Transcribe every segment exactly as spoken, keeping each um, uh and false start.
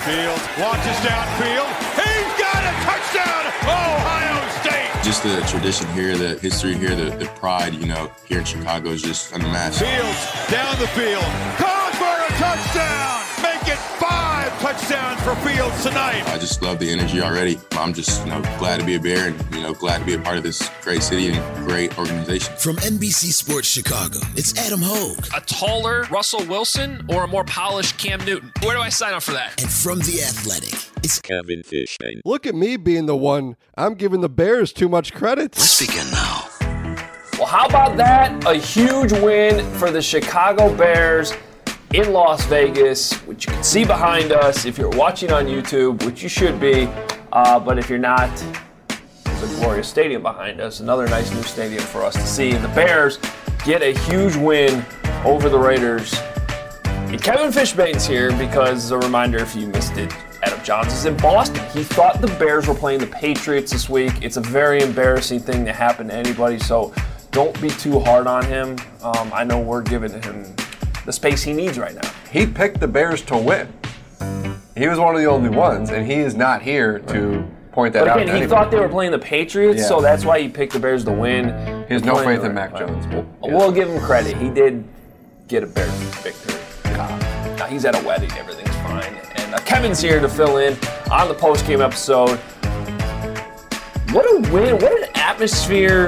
Fields launches downfield. He's got a touchdown, Ohio State. Just the tradition here, the history here, the, the pride, you know, here in Chicago is just unmatched. Fields down the field, caught for a touchdown. Make it five touchdowns for Fields tonight. I just love the energy already. I'm just, you know, glad to be a Bear and, you know, glad to be a part of this great city and great organization. From N B C Sports Chicago, it's Adam Hogue. A taller Russell Wilson or a more polished Cam Newton? Where do I sign up for that? And from The Athletic, it's Kevin Fishman. Look at me being the one. I'm giving the Bears too much credit. Let's begin now. Well, how about that? A huge win for the Chicago Bears in Las Vegas, which you can see behind us if you're watching on YouTube, which you should be. Uh, but if you're not, there's a glorious stadium behind us. Another nice new stadium for us to see. And the Bears get a huge win over the Raiders. And Kevin Fishbane's here because, as a reminder, if you missed it, Adam Johns is in Boston. He thought the Bears were playing the Patriots this week. It's a very embarrassing thing to happen to anybody, so don't be too hard on him. Um, I know we're giving him the space he needs right now. He picked the Bears to win. He was one of the only ones, and he is not here to point that but out. Again, he anybody. thought they were playing the Patriots, yeah. so that's why he picked the Bears to win. He has no faith in Mac Jones. We'll, yeah. we'll give him credit. He did get a Bears victory. Uh, now he's at a wedding. Everything's fine. And uh, Kevin's here to fill in on the post-game episode. What a win. What an atmosphere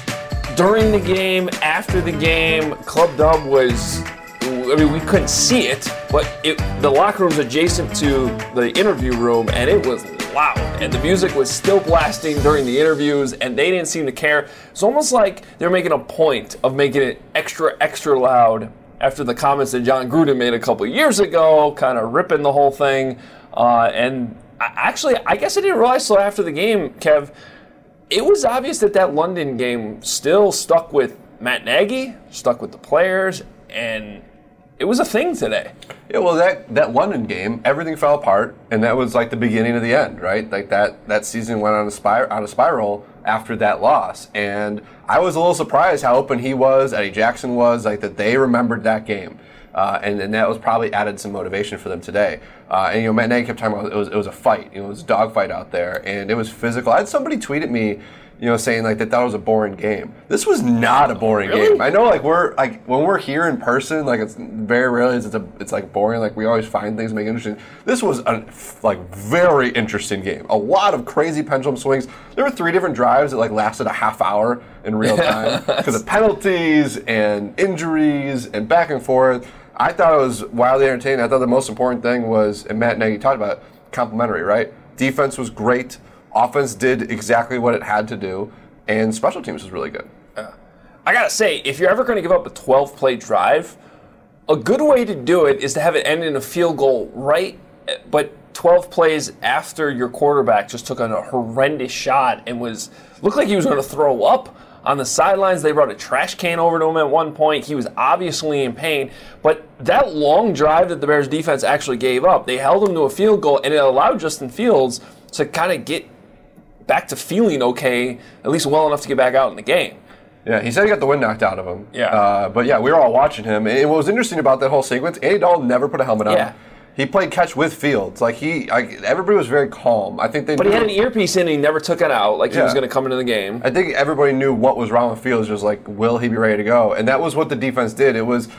during the game, after the game. Club Dub was... I mean, we couldn't see it, but it, the locker room's adjacent to the interview room, and it was loud. And the music was still blasting during the interviews, and they didn't seem to care. It's almost like they're making a point of making it extra, extra loud after the comments that John Gruden made a couple years ago, kind of ripping the whole thing. Uh, and I, actually, I guess I didn't realize so after the game, Kev, it was obvious that that London game still stuck with Matt Nagy, stuck with the players, and it was a thing today. Yeah, well, that, that London game, everything fell apart, and that was like the beginning of the end, right? Like that that season went on a, spir- on a spiral after that loss, and I was a little surprised how open he was, Eddie Jackson was, like that they remembered that game, uh, and, and that was probably added some motivation for them today. Uh, and you know, Matt Nagy kept talking about it was it was a fight, you know, it was a dogfight out there, and it was physical. I had somebody tweet at me, you know, saying like they thought it was a boring game. This was not a boring really? game. I know, like we're like when we're here in person, like it's very rarely it's a it's like boring. Like we always find things to make it interesting. This was a like very interesting game. A lot of crazy pendulum swings. There were three different drives that like lasted a half hour in real time because of penalties and injuries and back and forth. I thought it was wildly entertaining. I thought the most important thing was, and Matt Nagy talked about it, complimentary, right? Defense was great. Offense did exactly what it had to do, and special teams was really good. Uh, I gotta say, if you're ever going to give up a twelve-play drive, a good way to do it is to have it end in a field goal, right? But twelve plays after your quarterback just took on a horrendous shot and was looked like he was going to throw up on the sidelines. They brought a trash can over to him at one point. He was obviously in pain. But that long drive that the Bears defense actually gave up, they held him to a field goal, and it allowed Justin Fields to kind of get back to feeling okay, at least well enough to get back out in the game. Yeah, he said he got the wind knocked out of him. Yeah. Uh, but yeah, we were all watching him. And what was interesting about that whole sequence, Andy Dalton never put a helmet on. Yeah. He played catch with Fields. Like he, like everybody was very calm. I think they. But knew, he had an earpiece in and he never took it out, like he Yeah. was going to come into the game. I think everybody knew what was wrong with Fields. Just like, will he be ready to go? And that was what the defense did. It was.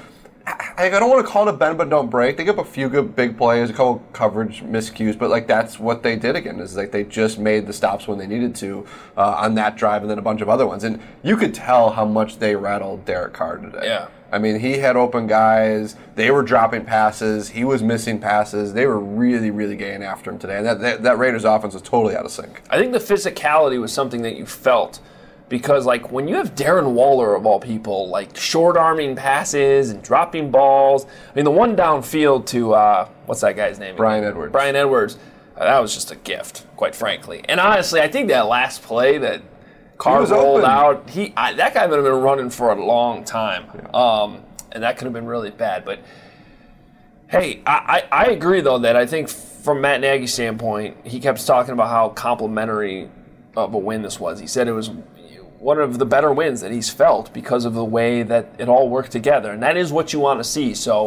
I don't want to call it a bend but don't break. They gave up a few good big plays, a couple coverage miscues, but like that's what they did again. Is like they just made the stops when they needed to uh, on that drive, and then a bunch of other ones. And you could tell how much they rattled Derek Carr today. Yeah. I mean, he had open guys. They were dropping passes. He was missing passes. They were really, really getting after him today. And that that, that Raiders offense was totally out of sync. I think the physicality was something that you felt. Because, like, when you have Darren Waller, of all people, like, short-arming passes and dropping balls. I mean, the one downfield to, uh, what's that guy's name? Brian Edwards. Brian Edwards. Uh, that was just a gift, quite frankly. And honestly, I think that last play that Carr rolled open. out, he I, that guy would have been running for a long time. Yeah. Um, and that could have been really bad. But, hey, I, I, I agree, though, that I think from Matt Nagy's standpoint, he kept talking about how complimentary of a win this was. He said it was one of the better wins that he's felt because of the way that it all worked together. And that is what you want to see. So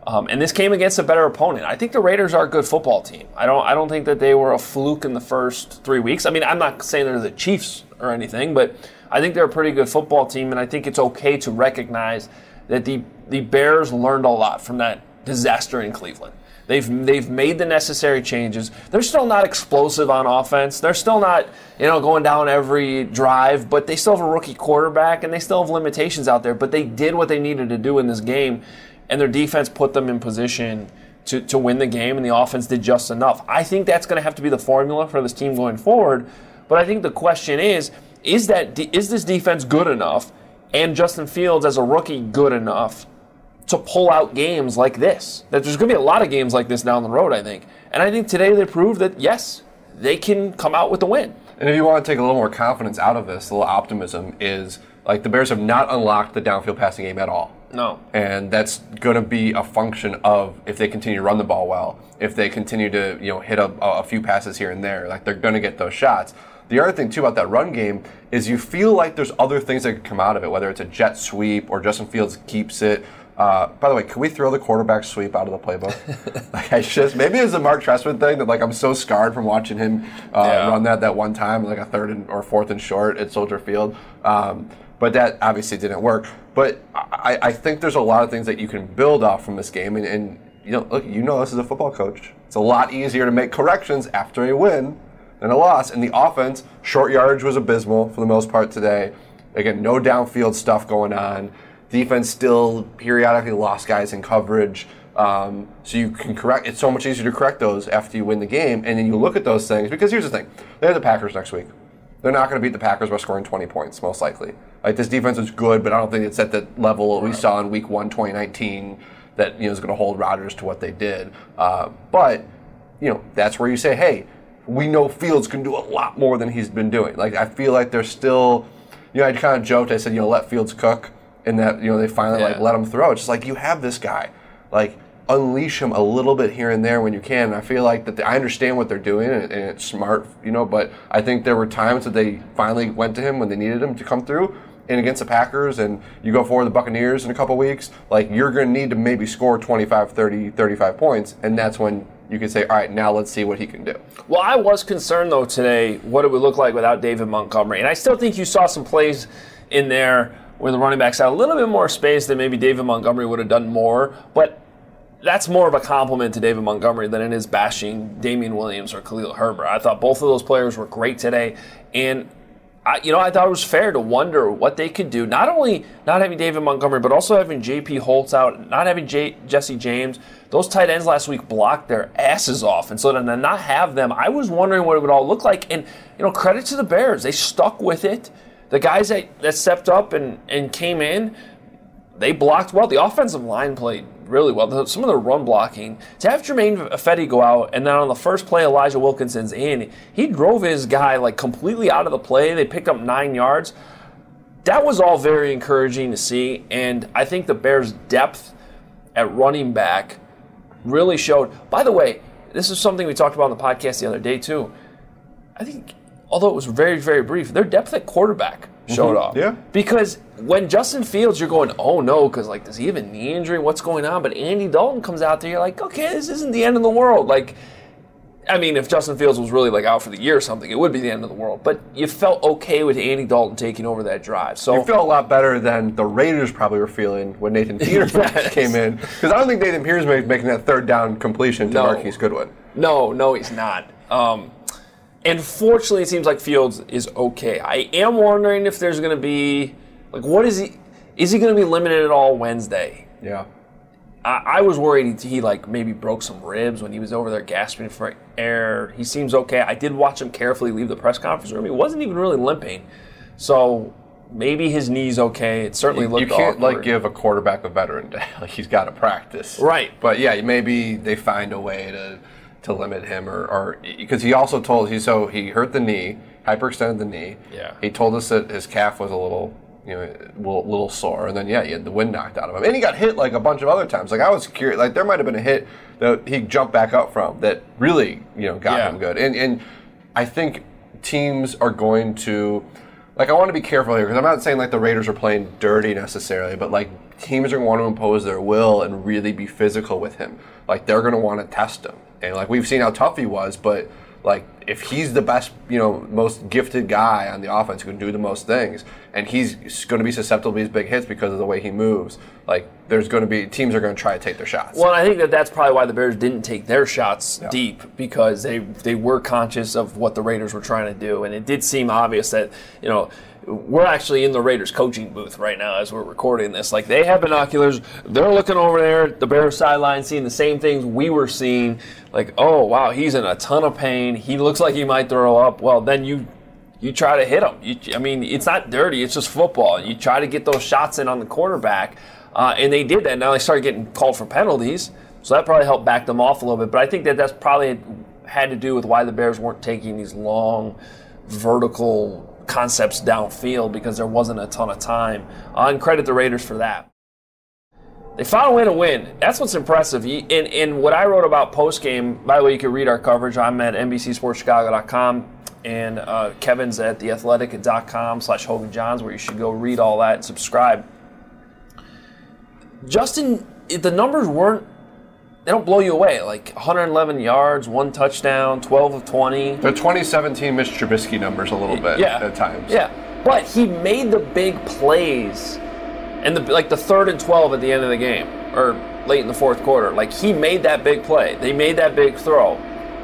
Um, and this came against a better opponent. I think the Raiders are a good football team. I don't I don't think that they were a fluke in the first three weeks. I mean, I'm not saying they're the Chiefs or anything, but I think they're a pretty good football team, and I think it's okay to recognize that the, the Bears learned a lot from that disaster in Cleveland. They've they've made the necessary changes. They're still not explosive on offense. They're still not, you know, going down every drive, but they still have a rookie quarterback, and they still have limitations out there. But they did what they needed to do in this game, and their defense put them in position to, to win the game, and the offense did just enough. I think that's going to have to be the formula for this team going forward. But I think the question is, is that is this defense good enough, and Justin Fields as a rookie good enough to pull out games like this? That there's going to be a lot of games like this down the road, I think. And I think today they proved that, yes, they can come out with the win. And if you want to take a little more confidence out of this, a little optimism, is like the Bears have not unlocked the downfield passing game at all. No. And that's going to be a function of if they continue to run the ball well, if they continue to, you know, hit a, a few passes here and there, like they're going to get those shots. The other thing, too, about that run game is you feel like there's other things that could come out of it, whether it's a jet sweep or Justin Fields keeps it. Uh, by the way, can we throw the quarterback sweep out of the playbook? Like I just maybe it's a Mark Trestman thing that like I'm so scarred from watching him uh, yeah. run that that one time, like a third and, or fourth and short at Soldier Field. Um, but that obviously didn't work. But I, I think there's a lot of things that you can build off from this game, and, and you know, look, you know, this is a football coach. It's a lot easier to make corrections after a win than a loss. And the offense, short yardage was abysmal for the most part today. Again, no downfield stuff going on. Defense still periodically lost guys in coverage. Um, so you can correct. It's so much easier to correct those after you win the game. And then you look at those things, because here's the thing. They have the Packers next week. They're not going to beat the Packers by scoring twenty points, most likely. Like, this defense is good, but I don't think it's at the level we saw in week one, twenty nineteen, that, you know, is going to hold Rodgers to what they did. Uh, but, you know, that's where you say, hey, we know Fields can do a lot more than he's been doing. Like, I feel like there's still, you know, I kind of joked. I said, you know, let Fields cook. And that, you know, they finally yeah. like let him throw. It's just like, you have this guy, like unleash him a little bit here and there when you can. And I feel like that the, I understand what they're doing, and, and it's smart, you know. But I think there were times that they finally went to him when they needed him to come through. And against the Packers, and you go for the Buccaneers in a couple weeks, like you're going to need to maybe score twenty-five, thirty, thirty-five points, and that's when you can say, all right, now let's see what he can do. Well, I was concerned though today what it would look like without David Montgomery, and I still think you saw some plays in there where the running backs had a little bit more space than maybe David Montgomery would have done more. But that's more of a compliment to David Montgomery than it is bashing Damian Williams or Khalil Herbert. I thought both of those players were great today. And, I, you know, I thought it was fair to wonder what they could do. Not only not having David Montgomery, but also having J P Holtz out, not having J- Jesse James. Those tight ends last week blocked their asses off. And so to not have them, I was wondering what it would all look like. And, you know, credit to the Bears. They stuck with it. The guys that, that stepped up and, and came in, they blocked well. The offensive line played really well. Some of the run blocking. To have Jermaine Ifedi go out, and then on the first play, Elijah Wilkinson's in, he drove his guy like completely out of the play. They picked up nine yards. That was all very encouraging to see, and I think the Bears' depth at running back really showed. By the way, this is something we talked about on the podcast the other day too. I think, although it was very, very brief, their depth at quarterback showed mm-hmm. off. Yeah. Because when Justin Fields, you're going, oh no, because like, does he have a knee injury? What's going on? But Andy Dalton comes out there, you're like, okay, this isn't the end of the world. Like, I mean, if Justin Fields was really like out for the year or something, it would be the end of the world. But you felt okay with Andy Dalton taking over that drive. So you felt a lot better than the Raiders probably were feeling when Nathan Peterman yes. came in. Because I don't think Nathan Peterman is making that third down completion to no. Marquise Goodwin. No, no, he's not. Um, and fortunately, it seems like Fields is okay. I am wondering if there's going to be, like, what is he, is he going to be limited at all Wednesday? Yeah. I was worried he, like, maybe broke some ribs when he was over there gasping for air. He seems okay. I did watch him carefully leave the press conference room. He wasn't even really limping. So maybe his knee's okay. It certainly looked awkward. You can't, like, give a quarterback a veteran day. Like, he's got to practice. Right. But, yeah, maybe they find a way to to limit him. or Because he also told, he so he hurt the knee, hyperextended the knee. Yeah. He told us that his calf was a little... you know, a little, little sore, and then yeah, he had the wind knocked out of him, and he got hit like a bunch of other times. Like I was curious, like there might have been a hit that he jumped back up from that really, you know, got yeah. him good. And and I think teams are going to like I want to be careful here because I'm not saying like the Raiders are playing dirty necessarily, but like teams are going to want to impose their will and really be physical with him. Like they're going to want to test him, and like we've seen how tough he was, but like if he's the best, you know, most gifted guy on the offense who can do the most things, and he's going to be susceptible to these big hits because of the way he moves, like there's going to be teams are going to try to take their shots. Well, I think that that's probably why the Bears didn't take their shots yeah. deep, because they they were conscious of what the Raiders were trying to do, and it did seem obvious that, you know, we're actually in the Raiders coaching booth right now as we're recording this. Like, they have binoculars. They're looking over there at the Bears sideline, seeing the same things we were seeing. Like, oh, wow, he's in a ton of pain. He looks like he might throw up. Well, then you you try to hit him. You, I mean, it's not dirty. It's just football. You try to get those shots in on the quarterback, uh, and they did that. Now they started getting called for penalties, so that probably helped back them off a little bit. But I think that that's probably had to do with why the Bears weren't taking these long, vertical concepts downfield, because there wasn't a ton of time. Uh, and credit the Raiders for that. They found a way to win. That's what's impressive. In, in what I wrote about postgame, by the way, you can read our coverage. I'm at N B C Sports Chicago dot com, and uh, Kevin's at the athletic dot com slash Hogan Johns, where you should go read all that and subscribe. Justin, the numbers weren't, they don't blow you away. Like one hundred eleven yards, one touchdown, twelve of twenty. The twenty seventeen Mitch Trubisky numbers a little bit yeah. at times. Yeah, but he made the big plays, and the like the third and twelve at the end of the game, or late in the fourth quarter. Like, he made that big play. They made that big throw.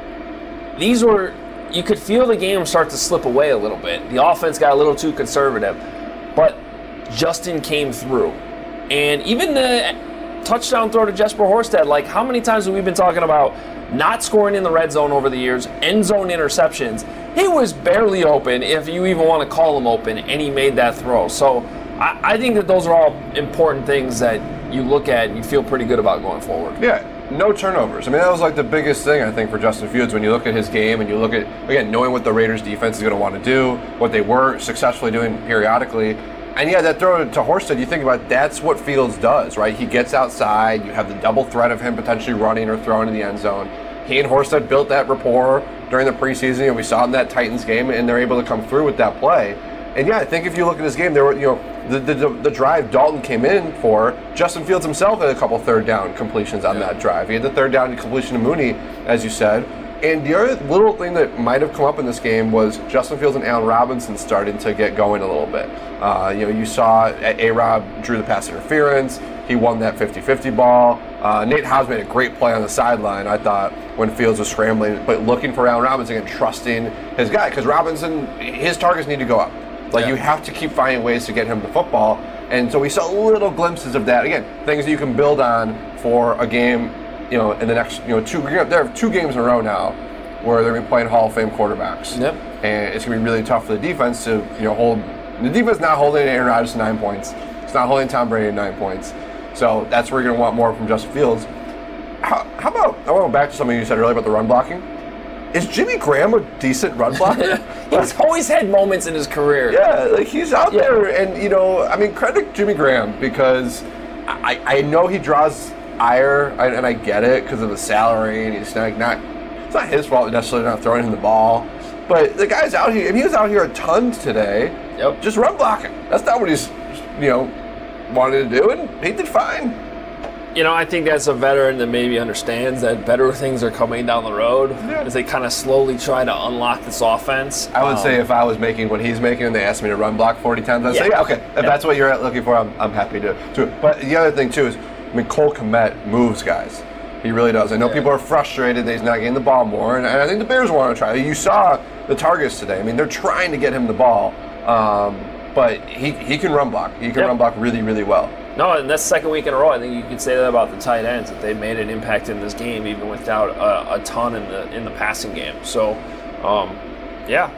These were, you could feel the game start to slip away a little bit. The offense got a little too conservative, but Justin came through. And even the touchdown throw to Jesper Horsted, like, how many times have we been talking about not scoring in the red zone over the years, end zone interceptions? He was barely open, if you even want to call him open, and he made that throw. So I, I think that those are all important things that you look at and you feel pretty good about going forward. Yeah, no turnovers. I mean, that was like the biggest thing, I think, for Justin Fields when you look at his game and you look at, again, knowing what the Raiders defense is going to want to do, what they were successfully doing periodically. And yeah, that throw to Horsted, you think about it, that's what Fields does, right? He gets outside, you have the double threat of him potentially running or throwing in the end zone. He and Horsted built that rapport during the preseason, and we saw in that Titans game, and they're able to come through with that play. And yeah, I think if you look at this game, there were, you know, the the, the drive Dalton came in for, Justin Fields himself had a couple third down completions on yeah. that drive. He had the third down completion to Mooney, as you said. And the other little thing that might have come up in this game was Justin Fields and Allen Robinson starting to get going a little bit. Uh, you know, you saw A-Rob drew the pass interference. He won that fifty-fifty ball. Uh, Nate Hobbs made a great play on the sideline, I thought, when Fields was scrambling, but looking for Allen Robinson and trusting his guy, because Robinson, his targets need to go up. Like, yeah. you have to keep finding ways to get him the football. And so we saw little glimpses of that. Again, things that you can build on for a game, you know, in the next, you know, two, there are two games in a row now where they're going to be playing Hall of Fame quarterbacks. Yep. And it's going to be really tough for the defense to, you know, hold, the defense not holding Aaron Rodgers to nine points. It's not holding Tom Brady to nine points. So that's where you're going to want more from Justin Fields. How, how about, I want to go back to something you said earlier about the run blocking. Is Jimmy Graham a decent run blocker? He's always had moments in his career. Yeah, like he's out yeah. there, and, you know, I mean, credit Jimmy Graham, because I, I know he draws ire, and I get it because of the salary, and he's not, not it's not his fault necessarily not throwing him the ball, but the guy's out here, and he was out here a ton today, yep. just run blocking. That's not what he's, you know, wanted to do, and he did fine. You know, I think that's a veteran that maybe understands that better things are coming down the road yeah. as they kind of slowly try to unlock this offense. I would um, say if I was making what he's making and they asked me to run block forty times, I'd yeah. say, yeah, okay, if yeah. that's what you're looking for, I'm, I'm happy to do it. But the other thing, too, is, I mean, Cole Kmet moves guys. He really does. I know yeah. people are frustrated that he's not getting the ball more, and, and I think the Bears want to try. You saw the targets today. I mean, they're trying to get him the ball, um, but he, he can run block. He can yep. run block really, really well. No, and that's the second week in a row. I think you could say that about the tight ends, that they made an impact in this game even without a, a ton in the in the passing game. So, um, yeah,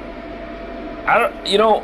I don't. You know,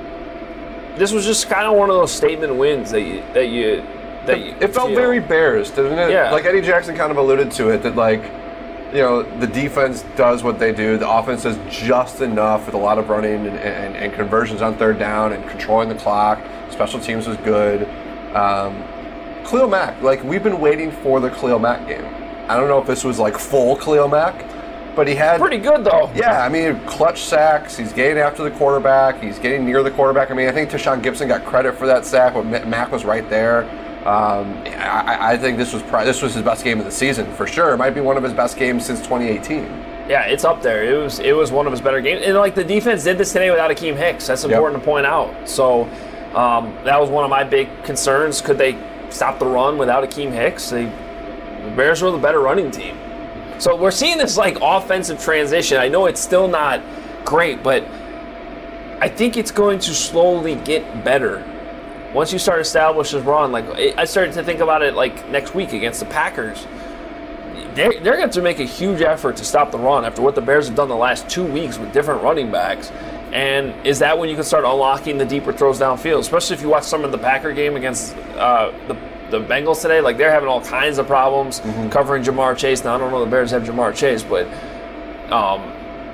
this was just kind of one of those statement wins that you that you that it, you. It felt feel. very Bears, didn't it? Yeah. Like Eddie Jackson kind of alluded to it, that like, you know, the defense does what they do. The offense does just enough with a lot of running and, and, and conversions on third down and controlling the clock. Special teams was good. Um, Khalil Mack, like, we've been waiting for the Khalil Mack game. I don't know if this was like full Khalil Mack, but he had pretty good though. Yeah, I mean, clutch sacks. He's getting after the quarterback. He's getting near the quarterback. I mean, I think Tashawn Gibson got credit for that sack, but Mac was right there. Um, I, I think this was probably, this was his best game of the season for sure. It might be one of his best games since twenty eighteen. Yeah, it's up there. It was it was one of his better games, and like the defense did this today without Akeem Hicks. That's important yep. to point out. So um, that was one of my big concerns. Could they stop the run without Akeem Hicks? They, the Bears were the better running team. So we're seeing this like offensive transition. I know it's still not great, but I think it's going to slowly get better. Once you start establish this run, like I started to think about it like next week against the Packers. They're, they're going to have to make a huge effort to stop the run after what the Bears have done the last two weeks with different running backs. And is that when you can start unlocking the deeper throws downfield? Especially if you watch some of the Packer game against uh, the the Bengals today. Like they're having all kinds of problems mm-hmm. covering Jamar Chase. Now I don't know the Bears have Jamar Chase, but um,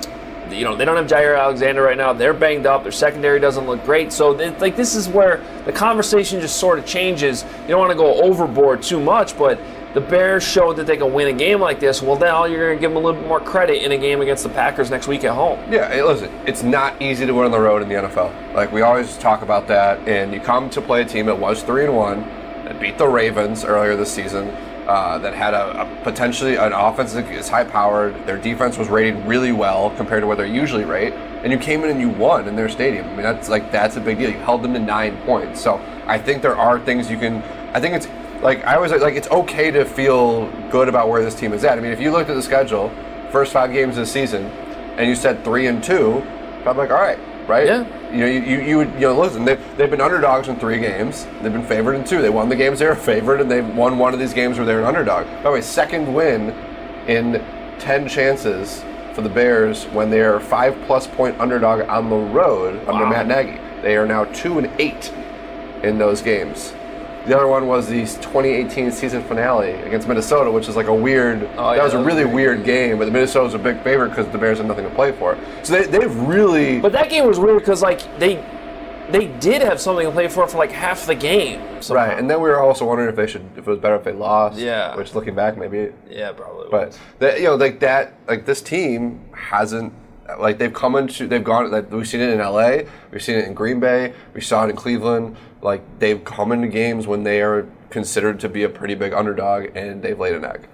you know they don't have Jair Alexander right now. They're banged up. Their secondary doesn't look great. So they, like this is where the conversation just sort of changes. You don't want to go overboard too much, but the Bears showed that they can win a game like this. Well, now you're going to give them a little bit more credit in a game against the Packers next week at home. Yeah, hey, listen, it's not easy to win on the road in the N F L. Like we always talk about that, and you come to play a team that was three and one, that beat the Ravens earlier this season, uh, that had a, a potentially an offense that is high powered. Their defense was rated really well compared to what they're usually rate, and you came in and you won in their stadium. I mean, that's like that's a big deal. You held them to nine points. So I think there are things you can. I think it's. Like, I always like, it's okay to feel good about where this team is at. I mean, if you looked at the schedule, first five games of the season, and you said three and two, I'm like, all right, right? Yeah. You know, you, you, you would, you know, listen, they've, they've been underdogs in three games. They've been favored in two. They won the games they were favored, and they won one of these games where they were an underdog. By the way, second win in ten chances for the Bears when they are five-plus point underdog on the road wow. under Matt Nagy. They are now two and eight in those games. The other one was the twenty eighteen season finale against Minnesota, which is like a weird, oh, yeah, that was a really weird game, but the Minnesota was a big favorite because the Bears had nothing to play for. So they, they've really... But that game was weird because like they they did have something to play for for like half the game. Somehow. Right, and then we were also wondering if they should, if it was better if they lost. Yeah. Which looking back, maybe... Yeah, probably. But, that, you know, like that, like this team hasn't... Like they've come into, they've gone. Like we've seen it in L A, we've seen it in Green Bay, we saw it in Cleveland. Like they've come into games when they are considered to be a pretty big underdog, and they've laid an egg.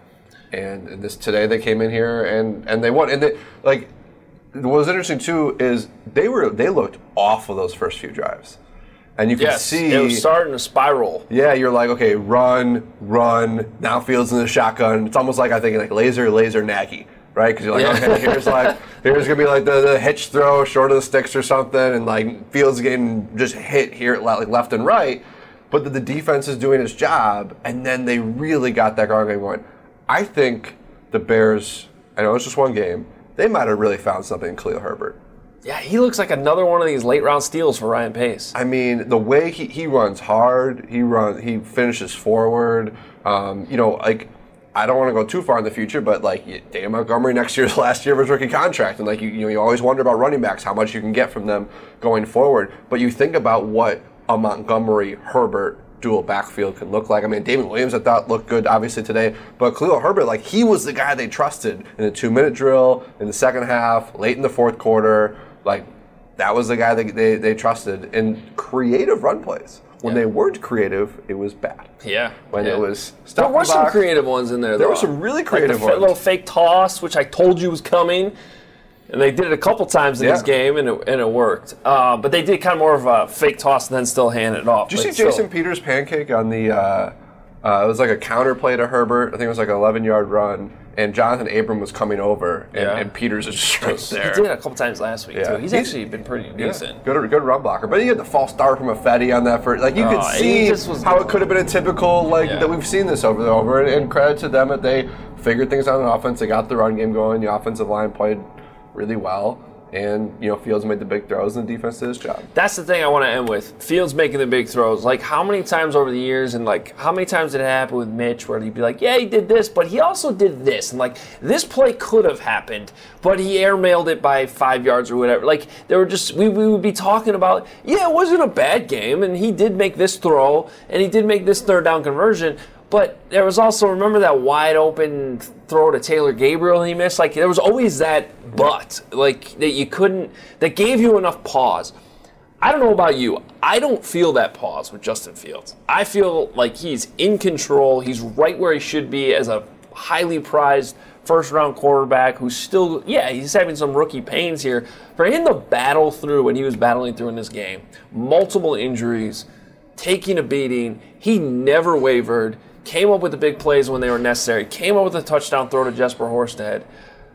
And this today they came in here and, and they won. And they like what was interesting too is they were they looked off of those first few drives, and you could yes, see it was starting to spiral. Yeah, you're like, okay, run, run. Now Fields in the shotgun. It's almost like I think like laser, laser, Nagy. Right, because you're like, yeah. okay, here's like, here's gonna be like the, the hitch throw, short of the sticks or something, and like Fields getting just hit here, like left and right, but the, the defense is doing its job, and then they really got that ground game going. I think the Bears, I know it's just one game, they might have really found something in Khalil Herbert. Yeah, he looks like another one of these late round steals for Ryan Pace. I mean, the way he, he runs hard, he run, he finishes forward. Um, you know, like. I don't want to go too far in the future, but like Dan Montgomery next year's last year of his rookie contract, and like you, you know, you always wonder about running backs, how much you can get from them going forward. But you think about what a Montgomery Herbert dual backfield can look like. I mean, David Williams I thought looked good obviously today, but Khalil Herbert, like he was the guy they trusted in the two minute drill, in the second half, late in the fourth quarter. Like that was the guy they they, they trusted in creative run plays. When yeah. they weren't creative, it was bad. Yeah. When yeah. it was There were some creative ones in there, though. There were some really creative like the ones. A little fake toss, which I told you was coming. And they did it a couple times in yeah. this game, and it, and it worked. Uh, but they did kind of more of a fake toss and then still hand it off. Did you see still. Jason Peters' pancake on the uh, – uh, it was like a counter play to Herbert. I think it was like an eleven-yard run. And Jonathan Abram was coming over, and, yeah. and Peters is just right there. He did it a couple times last week, yeah. too. He's, he's actually been pretty decent. Yeah. Good, good run blocker. But he had the false start from Affetti on that first. Like, you oh, could see how it could have been a typical, like, yeah. that we've seen this over and over. And, and credit to them that they figured things out on offense. They got the run game going. The offensive line played really well. And, you know, Fields made the big throws, and the defense did his job. That's the thing I want to end with. Fields making the big throws. Like, how many times over the years, and, like, how many times did it happen with Mitch where he'd be like, yeah, he did this, but he also did this. And, like, this play could have happened, but he airmailed it by five yards or whatever. Like, they were just, we, we would be talking about, yeah, it wasn't a bad game, and he did make this throw, and he did make this third down conversion. But there was also, remember that wide open throw to Taylor Gabriel he missed? Like, there was always that but, like, that you couldn't, that gave you enough pause. I don't know about you. I don't feel that pause with Justin Fields. I feel like he's in control. He's right where he should be as a highly prized first-round quarterback who's still, yeah, he's having some rookie pains here. For him to battle through what he was battling through in this game, multiple injuries, taking a beating, he never wavered, came up with the big plays when they were necessary, came up with a touchdown throw to Jesper Horsted.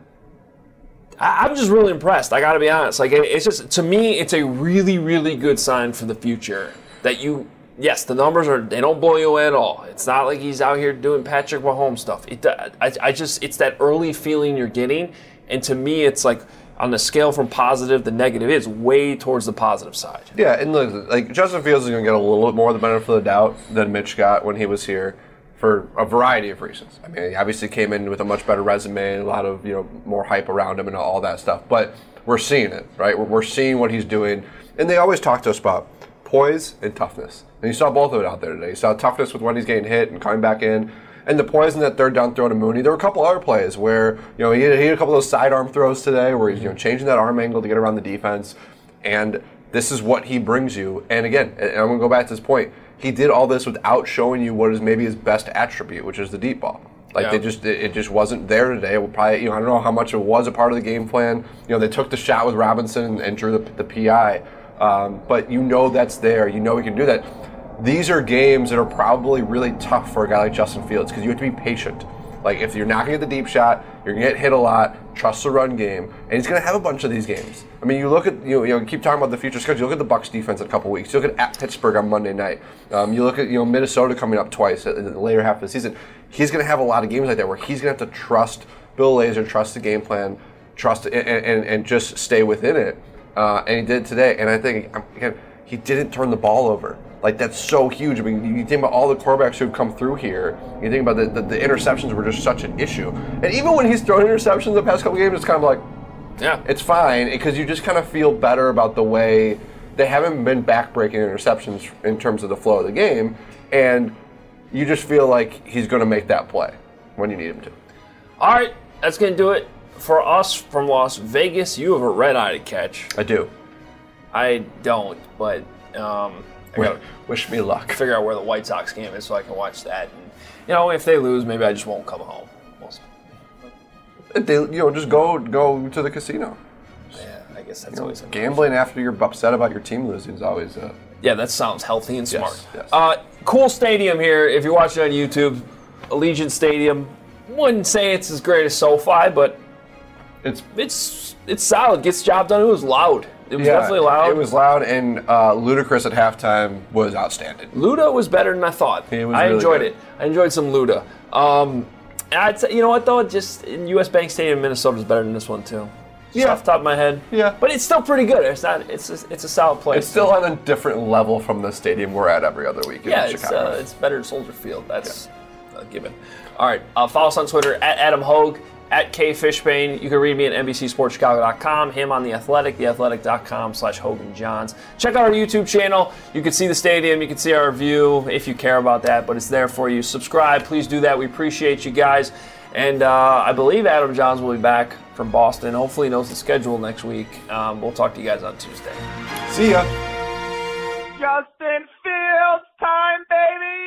I'm just really impressed. I got to be honest. Like, it's just, to me, it's a really, really good sign for the future that you, yes, the numbers are, they don't blow you away at all. It's not like he's out here doing Patrick Mahomes stuff. It, I, I just, it's that early feeling you're getting, and to me, it's like on the scale from positive to negative, it's way towards the positive side. Yeah, and look, like Justin Fields is going to get a little bit more of the benefit of the doubt than Mitch got when he was here, for a variety of reasons. I mean, he obviously came in with a much better resume and a lot of, you know, more hype around him and all that stuff. But we're seeing it, right? We're, we're seeing what he's doing. And they always talk to us about poise and toughness. And you saw both of it out there today. You saw toughness with when he's getting hit and coming back in. And the poise in that third down throw to Mooney. There were a couple other plays where, you know, he had, he had a couple of those sidearm throws today where he's, you know, changing that arm angle to get around the defense. And this is what he brings you. And again, and I'm going to go back to this point, he did all this without showing you what is maybe his best attribute, which is the deep ball. Like yeah. they just, it just wasn't there today. It will probably, you know, I don't know how much it was a part of the game plan. You know, they took the shot with Robinson and, and drew the, the P I, um, but you know that's there. You know he can do that. These are games that are probably really tough for a guy like Justin Fields because you have to be patient. Like, if you're not going to get the deep shot, you're going to get hit a lot, trust the run game, and he's going to have a bunch of these games. I mean, you look at, you know, you know keep talking about the future schedule. You look at the Bucs defense in a couple weeks. You look at, at Pittsburgh on Monday night. Um, you look at, you know, Minnesota coming up twice in the later half of the season. He's going to have a lot of games like that where he's going to have to trust Bill Lazor, trust the game plan, trust it, and, and, and just stay within it. Uh, and he did today. And I think, again, he didn't turn the ball over. Like, that's so huge. I mean, you think about all the quarterbacks who've come through here. You think about the, the, the interceptions were just such an issue. And even when he's thrown interceptions the past couple games, it's kind of like, yeah, it's fine. Because you just kind of feel better about the way they haven't been back-breaking interceptions in terms of the flow of the game. And you just feel like he's going to make that play when you need him to. All right, that's going to do it for us from Las Vegas. You have a red-eye to catch. I do. I don't, but... Um, I gotta wish me luck. Figure out where the White Sox game is so I can watch that. And, you know, if they lose, maybe I just won't come home. We'll they, you know, just go go to the casino. Yeah, I guess that's you know, always gambling after you're upset about your team losing is always. Uh, yeah, that sounds healthy and smart. Yes, yes. Uh, cool stadium here. If you're watching on YouTube, Allegiant Stadium. Wouldn't say it's as great as SoFi, but it's it's it's solid. Gets the job done. It was loud. It was yeah, definitely loud. It was loud, and uh, Ludacris at halftime was outstanding. Luda was better than I thought. It was I really enjoyed good. it. I enjoyed some Luda. Um, and I'd say, you know what though? Just in U S Bank Stadium, Minnesota is better than this one too. Just Yeah. off the top of my head. Yeah. But it's still pretty good. It's not. It's a, it's a solid place. It's still on a different level from the stadium we're at every other week in yeah. It's Chicago. uh, it's better than Soldier Field. That's yeah. a given. All right. Uh, follow us on Twitter at Adam Hogue. At K Fishbane. You can read me at N B C Sports Chicago dot com, him on The Athletic, the athletic dot com slash Hogan Johns. Check out our YouTube channel. You can see the stadium. You can see our view if you care about that, but it's there for you. Subscribe. Please do that. We appreciate you guys. And uh, I believe Adam Johns will be back from Boston. Hopefully he knows the schedule next week. Um, we'll talk to you guys on Tuesday. See ya. Justin Fields time, baby!